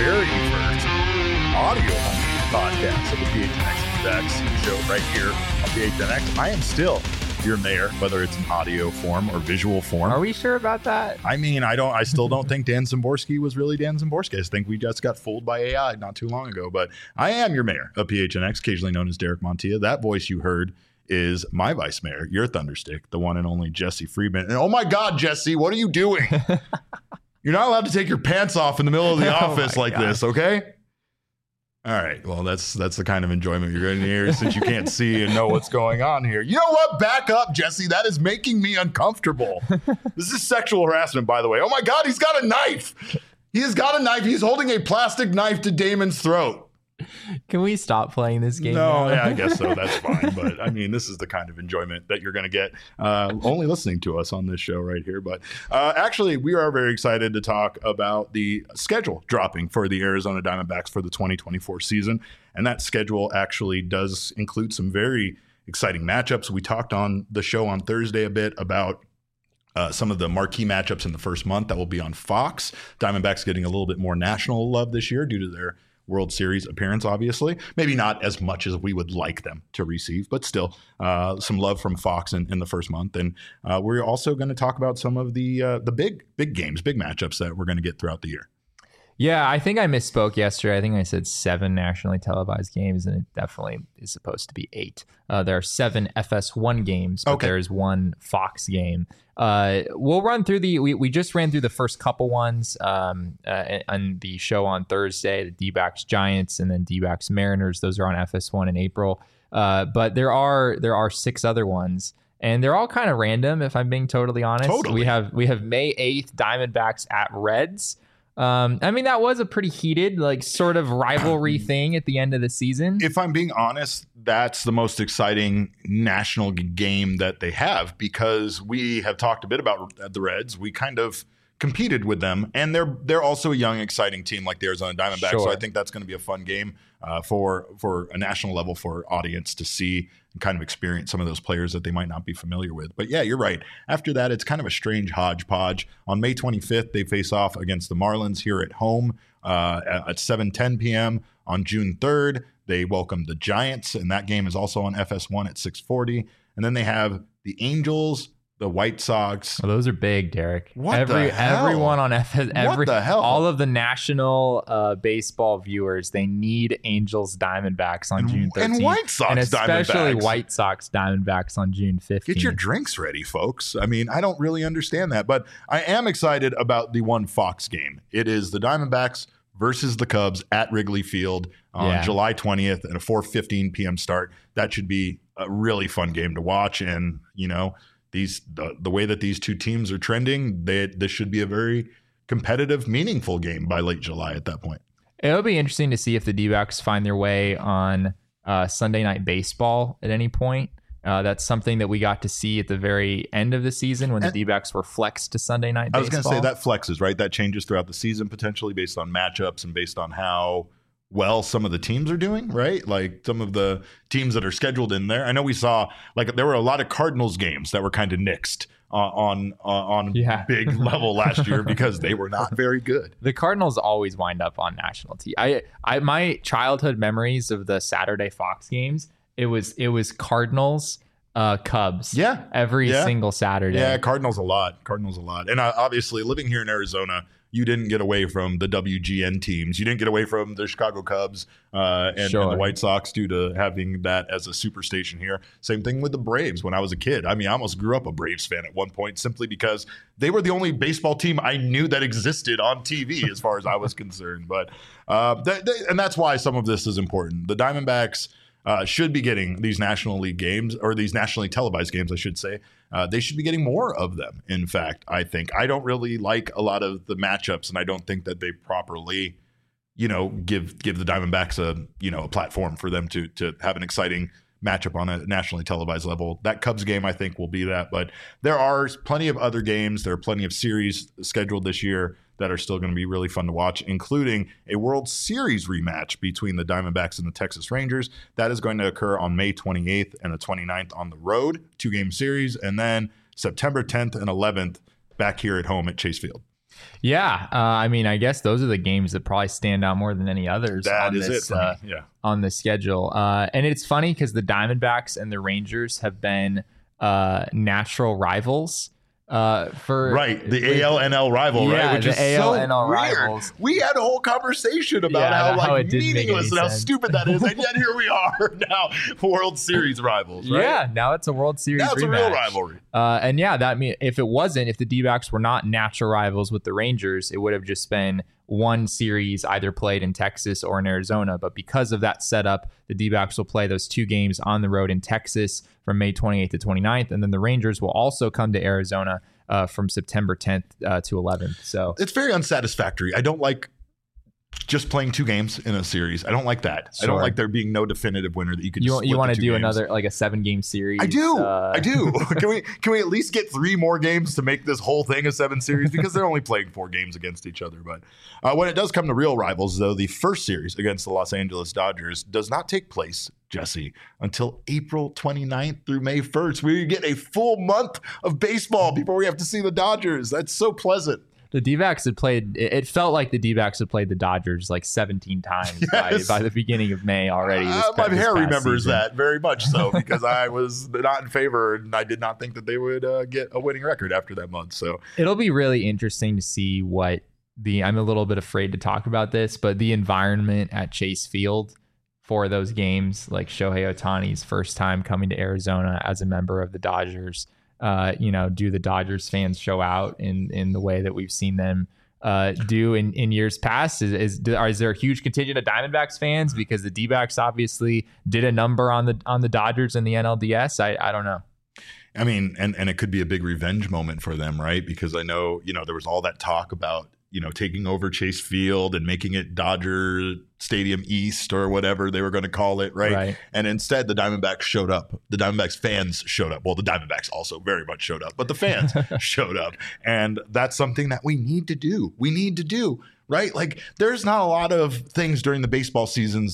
very first audio-only podcast of the PHNX Backs show right here on PHNX. I am still your mayor, whether it's in audio form or visual form. Are we sure about that? I mean, I still don't think Dan Szymborski was really Dan Szymborski. I think we just got fooled by AI not too long ago. But I am your mayor of PHNX, occasionally known as Derek Montilla. That voice you heard is my vice mayor, your thunderstick, the one and only Jesse Friedman. And oh my God, Jesse, what are you doing? You're not allowed to take your pants off in the middle of the office like this, okay? All right. Well, that's the kind of enjoyment you're going to hear since you can't see and know what's going on here. You know what? Back up, Jesse. That is making me uncomfortable. This is sexual harassment, by the way. Oh my God, he's got a knife. He has got a knife. He's holding a plastic knife to Damon's throat. Can we stop playing this game? No, now? Yeah, I guess so. That's fine. But I mean, this is the kind of enjoyment that you're going to get only listening to us on this show right here. But actually, we are very excited to talk about the schedule dropping for the Arizona Diamondbacks for the 2024 season. And that schedule actually does include some very exciting matchups. We talked on the show on Thursday a bit about some of the marquee matchups in the first month that will be on Fox. Diamondbacks getting a little bit more national love this year due to their World Series appearance, obviously. Maybe not as much as we would like them to receive, but still some love from Fox in the first month. And we're also going to talk about some of the big games, big matchups that we're going to get throughout the year. Yeah, I think I misspoke yesterday. I think I said 7 nationally televised games, and it definitely is supposed to be 8. There are 7 FS1 games, but there's 1 Fox game. We'll run through we just ran through the first couple ones on the show on Thursday, the D-backs Giants and then D-backs Mariners. Those are on FS1 in April. But there are 6 other ones. And they're all kind of random, if I'm being totally honest. Totally. We have May 8th, Diamondbacks at Reds. I mean, that was a pretty heated, sort of rivalry thing at the end of the season. If I'm being honest, that's the most exciting national game that they have, because we have talked a bit about the Reds. We kind of competed with them, and they're also a young, exciting team like the Arizona Diamondbacks. Sure. So I think that's going to be a fun game for a national level for audience to see and kind of experience some of those players that they might not be familiar with. But yeah, you're right. After that, it's kind of a strange hodgepodge. On May 25th, they face off against the Marlins here at home at 7:10 p.m. On June 3rd, they welcome the Giants, and that game is also on FS1 at 6:40. And then they have the Angels, the White Sox. Well, those are big, Derek. What the hell? Everyone on FS, What the hell? all of the national baseball viewers, they need Angels Diamondbacks on June 13th. And White Sox and especially Diamondbacks. White Sox Diamondbacks on June 15th. Get your drinks ready, folks. I mean, I don't really understand that, but I am excited about the one Fox game. It is the Diamondbacks versus the Cubs at Wrigley Field on July 20th at a 4:15 p.m. start. That should be a really fun game to watch. And, you know, the way that these two teams are trending, this should be a very competitive, meaningful game by late July at that point. It'll be interesting to see if the D-backs find their way on Sunday Night Baseball at any point. That's something that we got to see at the very end of the season when the D-backs were flexed to Sunday Night Baseball. I was going to say that flexes, right? That changes throughout the season potentially based on matchups and based on how well some of the teams are doing, right? Like some of the teams that are scheduled in there. I know we saw there were a lot of Cardinals games that were kind of nixed on big level last year because they were not very good. The Cardinals always wind up on national TV. My childhood memories of the Saturday Fox games, it was Cardinals, Cubs. Yeah. Every single Saturday. Yeah, Cardinals a lot. And obviously living here in Arizona, you didn't get away from the WGN teams. You didn't get away from the Chicago Cubs and the White Sox due to having that as a superstation here. Same thing with the Braves when I was a kid. I mean, I almost grew up a Braves fan at one point simply because they were the only baseball team I knew that existed on TV as far as I was concerned. But and that's why some of this is important. The Diamondbacks should be getting these National League games, or these nationally televised games, I should say. They should be getting more of them. In fact, I think I don't really like a lot of the matchups, and I don't think that they properly, give the Diamondbacks a platform for them to have an exciting matchup on a nationally televised level. That Cubs game, I think, will be that. But there are plenty of other games. There are plenty of series scheduled this year that are still going to be really fun to watch, including a World Series rematch between the Diamondbacks and the Texas Rangers. That is going to occur on May 28th and the 29th on the road, 2-game series, and then September 10th and 11th back here at home at Chase Field. Yeah, I mean, I guess those are the games that probably stand out more than any others on the schedule. And it's funny because the Diamondbacks and the Rangers have been natural rivals. The AL-NL rival, right? Which is AL-NL rivals. We had a whole conversation about how meaningless and how stupid that is, and yet here we are now, World Series rivals, right? Yeah, now it's a World Series. Now it's a real rivalry. And that mean if the D-backs were not natural rivals with the Rangers, it would have just been one series either played in Texas or in Arizona. But because of that setup, the D-backs will play those 2 games on the road in Texas from May 28th to 29th. And then the Rangers will also come to Arizona from September 10th to 11th. So it's very unsatisfactory. I don't like just playing 2 games in a series. I don't like that. Sure. I don't like there being no definitive winner that you could. You want to do another like a 7-game series? I do. Can we at least get 3 more games to make this whole thing a 7 series? Because they're only playing 4 games against each other. But when it does come to real rivals, though, the first series against the Los Angeles Dodgers does not take place, Jesse, until April 29th through May 1st. We get a full month of baseball before we have to see the Dodgers. That's so pleasant. The D-backs had played, it felt like the D-backs had played the Dodgers like 17 times by the beginning of May already. My hair remembers that very much so, because I was not in favor and I did not think that they would get a winning record after that month. So it'll be really interesting to see I'm a little bit afraid to talk about this, but the environment at Chase Field for those games, like Shohei Ohtani's first time coming to Arizona as a member of the Dodgers. Do the Dodgers fans show out in the way that we've seen them do in years past? Is there a huge contingent of Diamondbacks fans because the D-backs obviously did a number on the Dodgers in the NLDS? I don't know. I mean, and it could be a big revenge moment for them, right? Because I know, there was all that talk about, taking over Chase Field and making it Dodger Stadium East or whatever they were going to call it, right? And instead, the Diamondbacks showed up. The Diamondbacks fans showed up. Well, the Diamondbacks also very much showed up, but the fans showed up. And that's something that we need to do. Right? Like, there's not a lot of things during the baseball seasons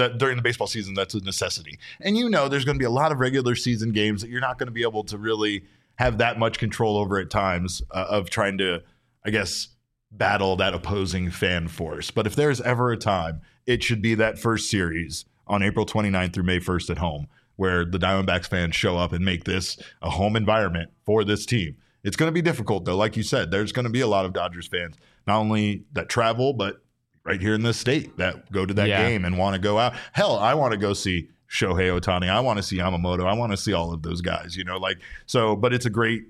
that's a necessity. And there's going to be a lot of regular season games that you're not going to be able to really have that much control over at times of trying to, I guess, battle that opposing fan force. But if there's ever a time, it should be that first series on April 29th through May 1st at home, where the Diamondbacks fans show up and make this a home environment for this team. It's going to be difficult, though. Like you said, there's going to be a lot of Dodgers fans, not only that travel, but right here in this state that go to that game and want to go out. Hell, I want to go see Shohei Ohtani. I want to see Yamamoto. I want to see all of those guys, but it's a great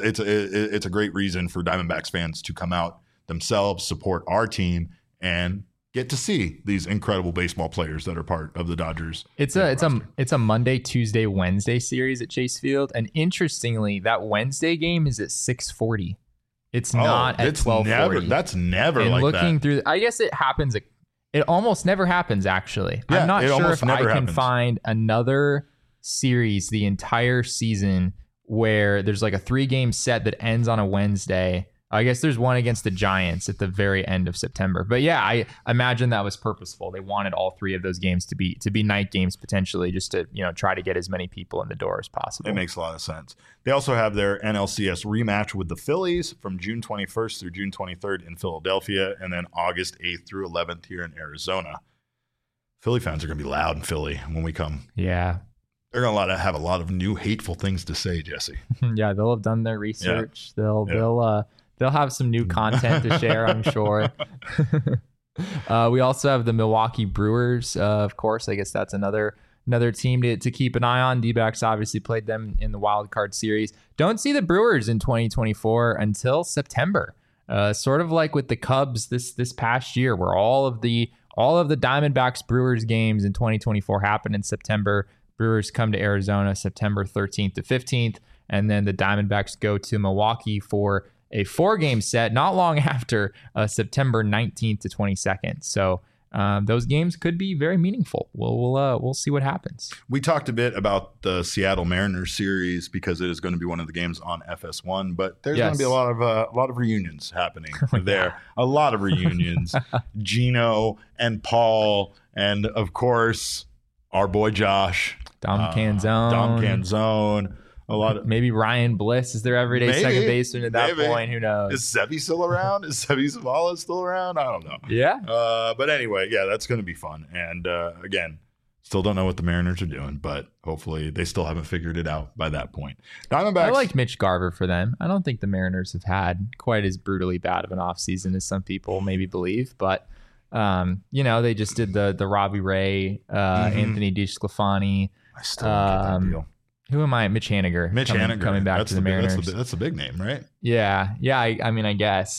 reason for Diamondbacks fans to come out themselves, support our team, and get to see these incredible baseball players that are part of the Dodgers. It's a Monday, Tuesday, Wednesday series at Chase Field, and interestingly, that Wednesday game is at 6:40. It's not at 12:40. That's never and like that. Looking through, I guess it happens. It almost never happens. Actually, yeah, I'm not sure if I can find another series the entire season where there's like a 3-game set that ends on a Wednesday. I guess there's one against the Giants at the very end of September. But yeah, I imagine that was purposeful. They wanted all 3 of those games to be night games potentially, just to try to get as many people in the door as possible. It makes a lot of sense. They also have their NLCS rematch with the Phillies from June 21st through June 23rd in Philadelphia, and then August 8th through 11th here in Arizona. Philly fans are going to be loud in Philly when we come. Yeah. They're going to have a lot of new hateful things to say, Jesse. Yeah, they'll have done their research. Yeah. They'll have some new content to share, I'm sure. We also have the Milwaukee Brewers, of course. I guess that's another team to keep an eye on. D-backs obviously played them in the wild card series. Don't see the Brewers in 2024 until September. Sort of like with the Cubs this past year, where all of the Diamondbacks Brewers games in 2024 happen in September. Brewers come to Arizona September 13th to 15th, and then the Diamondbacks go to Milwaukee for a 4-game set not long after September 19th to 22nd. So those games could be very meaningful. We'll see what happens. We talked a bit about the Seattle Mariners series because it is going to be one of the games on FS1, but there's going to be a lot of reunions happening there. A lot of reunions. Gino and Paul, and of course our boy Josh, Dom Canzone. A lot of maybe Ryan Bliss is their everyday second baseman at that point. Who knows? Is Sevy still around? Is Sevy Zavala still around? I don't know. Yeah. But anyway, yeah, that's going to be fun. And again, still don't know what the Mariners are doing, but hopefully they still haven't figured it out by that point. Diamondbacks. I like Mitch Garver for them. I don't think the Mariners have had quite as brutally bad of an offseason as some people maybe believe, but they just did the Robbie Ray, Anthony DeSclafani. I still don't get that deal. Who am I? Mitch Haniger. Coming back to the Mariners. That's a big name, right? Yeah. I mean, I guess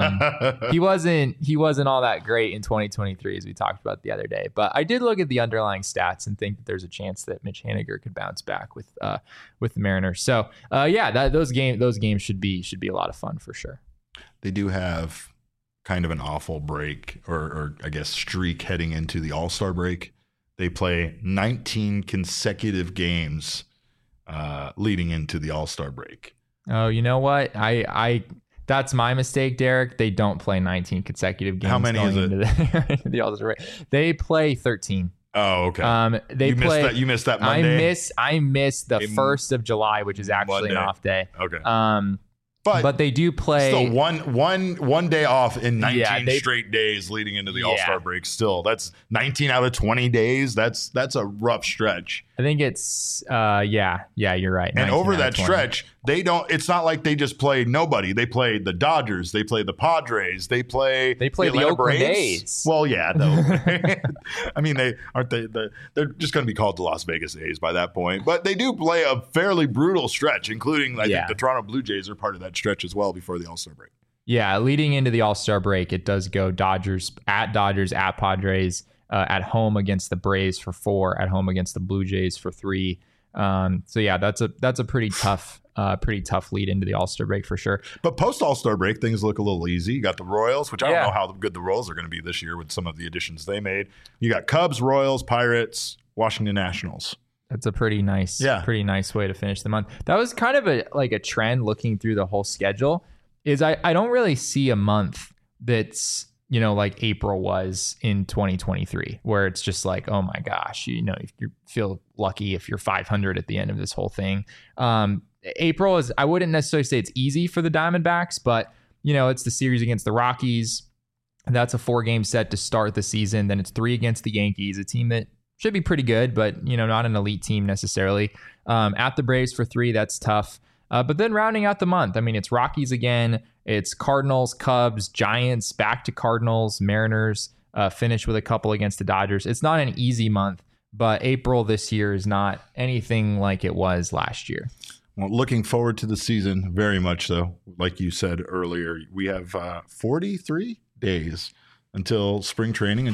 he wasn't all that great in 2023, as we talked about the other day. But I did look at the underlying stats and think that there's a chance that Mitch Haniger could bounce back with the Mariners. So those games should be a lot of fun for sure. They do have kind of an awful break, or I guess streak heading into the All-Star break. They play 19 consecutive games leading into the All-Star break. Oh, you know what? I that's my mistake, Derek. They don't play 19 consecutive games. How many is it? Into the All-Star break. They play 13. Oh, okay. You missed that Monday. I missed the 1st of July, which is actually an off day. Okay. But they do play still one day off in 19 straight days leading into the All-Star break. Still, that's 19 out of 20 days. That's a rough stretch. I think it's you're right. And over that stretch, it's not like they just play nobody. They play the Dodgers, they play the Padres, they play the Oakland A's. Well, yeah, no. I mean, they're just going to be called the Las Vegas A's by that point. But they do play a fairly brutal stretch, including I think the Toronto Blue Jays are part of that stretch as well before the All-Star break. Yeah, leading into the All-Star break, it does go Dodgers, at Padres, at home against the Braves for 4, at home against the Blue Jays for 3. So yeah, that's a pretty tough lead into the All-Star break for sure. But post All-Star break, things look a little easy. You got the Royals, which I don't know how good the Royals are going to be this year with some of the additions they made. You got Cubs, Royals, Pirates, Washington Nationals. That's a pretty nice way to finish the month. That was kind of a trend looking through the whole schedule. Is I don't really see a month that's like April was in 2023, where it's just like, oh my gosh, you feel lucky if you're 500 at the end of this whole thing. April is, I wouldn't necessarily say it's easy for the Diamondbacks, but it's the series against the Rockies. That's a 4-game set to start the season. Then it's 3 against the Yankees, a team that should be pretty good, but not an elite team necessarily. At the Braves for 3, that's tough. But then rounding out the month, I mean, it's Rockies again. It's Cardinals, Cubs, Giants, back to Cardinals, Mariners, finish with a couple against the Dodgers. It's not an easy month, but April this year is not anything like it was last year. Well, looking forward to the season, very much so. Like you said earlier, we have 43 days until spring training,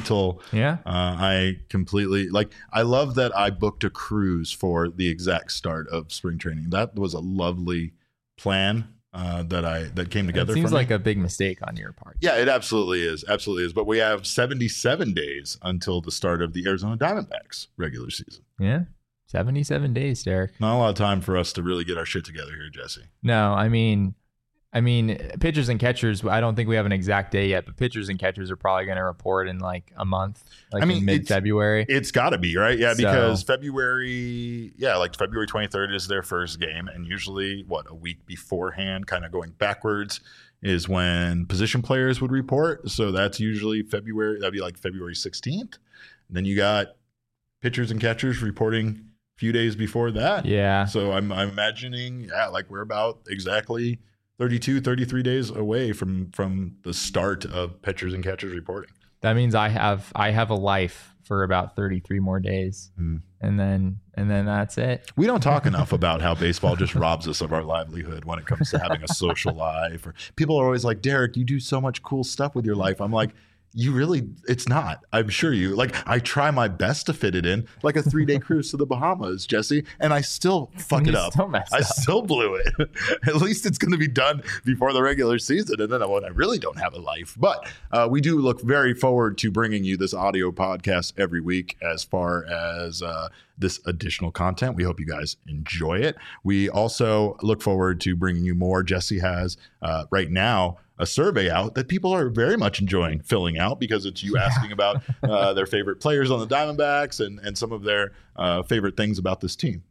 I completely I love that I booked a cruise for the exact start of spring training. That was a lovely plan that came together. It seems like a big mistake on your part. Yeah, it absolutely is. But we have 77 days until the start of the Arizona Diamondbacks regular season. Yeah. 77 days, Derek. Not a lot of time for us to really get our shit together here, Jesse. No, I mean, pitchers and catchers, I don't think we have an exact day yet, but pitchers and catchers are probably going to report in like a month, in mid-February. It's got to be, right? Yeah, because February 23rd is their first game. And usually, a week beforehand, kind of going backwards, is when position players would report. So that's usually February. That'd be like February 16th. And then you got pitchers and catchers reporting a few days before that. Yeah. So I'm imagining, we're about exactly 32, 33 days away from the start of pitchers and catchers reporting. That means I have a life for about 33 more days. And then that's it. We don't talk enough about how baseball just robs us of our livelihood when it comes to having a social life. Or people are always like, Derek, you do so much cool stuff with your life. I'm like, it's not. I'm sure I try my best to fit it in, like a 3-day cruise to the Bahamas, Jesse, and I still fuck it up. I still blew it. At least it's going to be done before the regular season, and then when I really don't have a life. But we do look very forward to bringing you this audio podcast every week as far as this additional content. We hope you guys enjoy it. We also look forward to bringing you more. Jesse has right now a survey out that people are very much enjoying filling out, because it's you asking about their favorite players on the Diamondbacks and some of their favorite things about this team.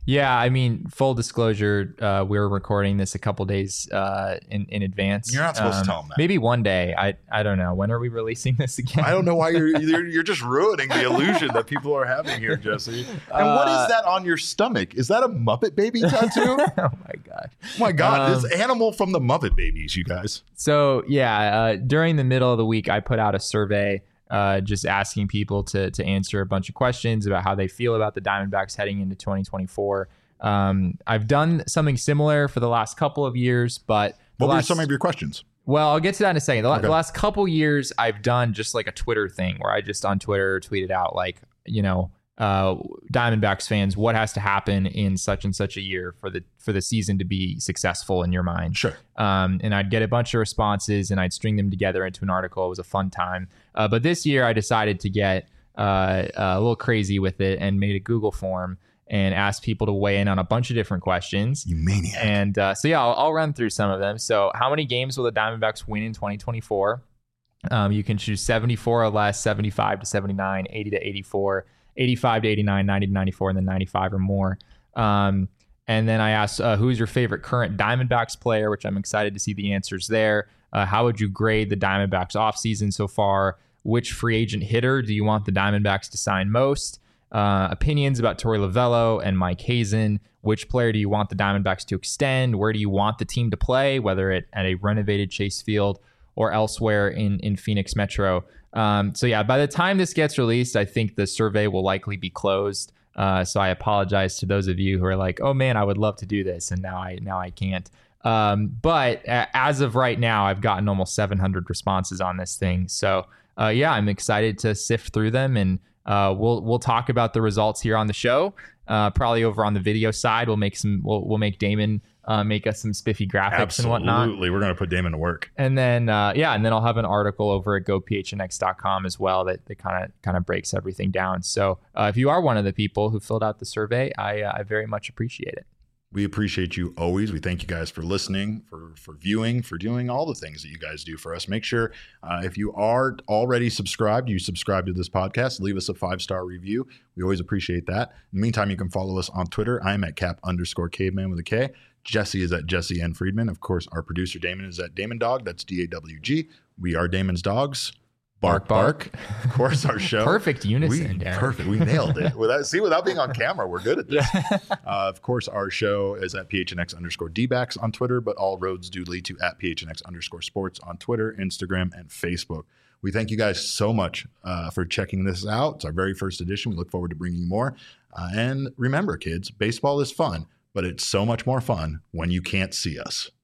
Yeah, I mean, full disclosure, we're recording this a couple days in advance. You're not supposed to tell them that. Maybe one day. I don't know. When are we releasing this again? I don't know why you're just ruining the illusion that people are having here, Jesse. And what is that on your stomach? Is that a Muppet Baby tattoo? Oh my god! Oh my god! This animal from the Muppet Babies, you guys. So yeah, during the middle of the week, I put out a survey. Just asking people to answer a bunch of questions about how they feel about the Diamondbacks heading into 2024. I've done something similar for the last couple of years, but what were some of your questions? Well, I'll get to that in a second. The last couple years, I've done just like a Twitter thing where I just on Twitter tweeted out like, Diamondbacks fans, what has to happen in such and such a year for the season to be successful in your mind? Sure. And I'd get a bunch of responses and I'd string them together into an article. It was a fun time. But this year I decided to get a little crazy with it and made a Google form and asked people to weigh in on a bunch of different questions. You maniac. And I'll run through some of them. So how many games will the Diamondbacks win in 2024? You can choose 74 or less, 75 to 79, 80 to 84, 85 to 89, 90 to 94, and then 95 or more. And then I asked, who's your favorite current Diamondbacks player, which I'm excited to see the answers there. How would you grade the Diamondbacks offseason so far? Which free agent hitter do you want the Diamondbacks to sign most? Opinions about Torey Lovullo and Mike Hazen. Which player do you want the Diamondbacks to extend? Where do you want the team to play, whether at a renovated Chase Field or elsewhere in Phoenix Metro? By the time this gets released, I think the survey will likely be closed. So I apologize to those of you who are like, oh man, I would love to do this, and now I can't. But as of right now, I've gotten almost 700 responses on this thing. So I'm excited to sift through them, and we'll talk about the results here on the show. Probably over on the video side, we'll make Damon make us some spiffy graphics and whatnot. Absolutely, we're going to put Damon to work. And then I'll have an article over at gophnx.com as well that kind of breaks everything down. So if you are one of the people who filled out the survey, I very much appreciate it. We appreciate you always. We thank you guys for listening, for viewing, for doing all the things that you guys do for us. Make sure if you are already subscribed, you subscribe to this podcast. Leave us a 5-star review. We always appreciate that. In the meantime, you can follow us on Twitter. I'm at cap_caveman with a K. Jesse is at Jesse N. Friedman. Of course, our producer Damon is at Damon Dog. That's DAWG. We are Damon's dogs. Bark, bark. Of course, our show. Perfect unison. Perfect. We nailed it. Without being on camera, we're good at this. Of course, our show is at PHNX_DBacks on Twitter, but all roads do lead to at PHNX_sports on Twitter, Instagram, and Facebook. We thank you guys so much for checking this out. It's our very first edition. We look forward to bringing you more. And remember, kids, baseball is fun, but it's so much more fun when you can't see us.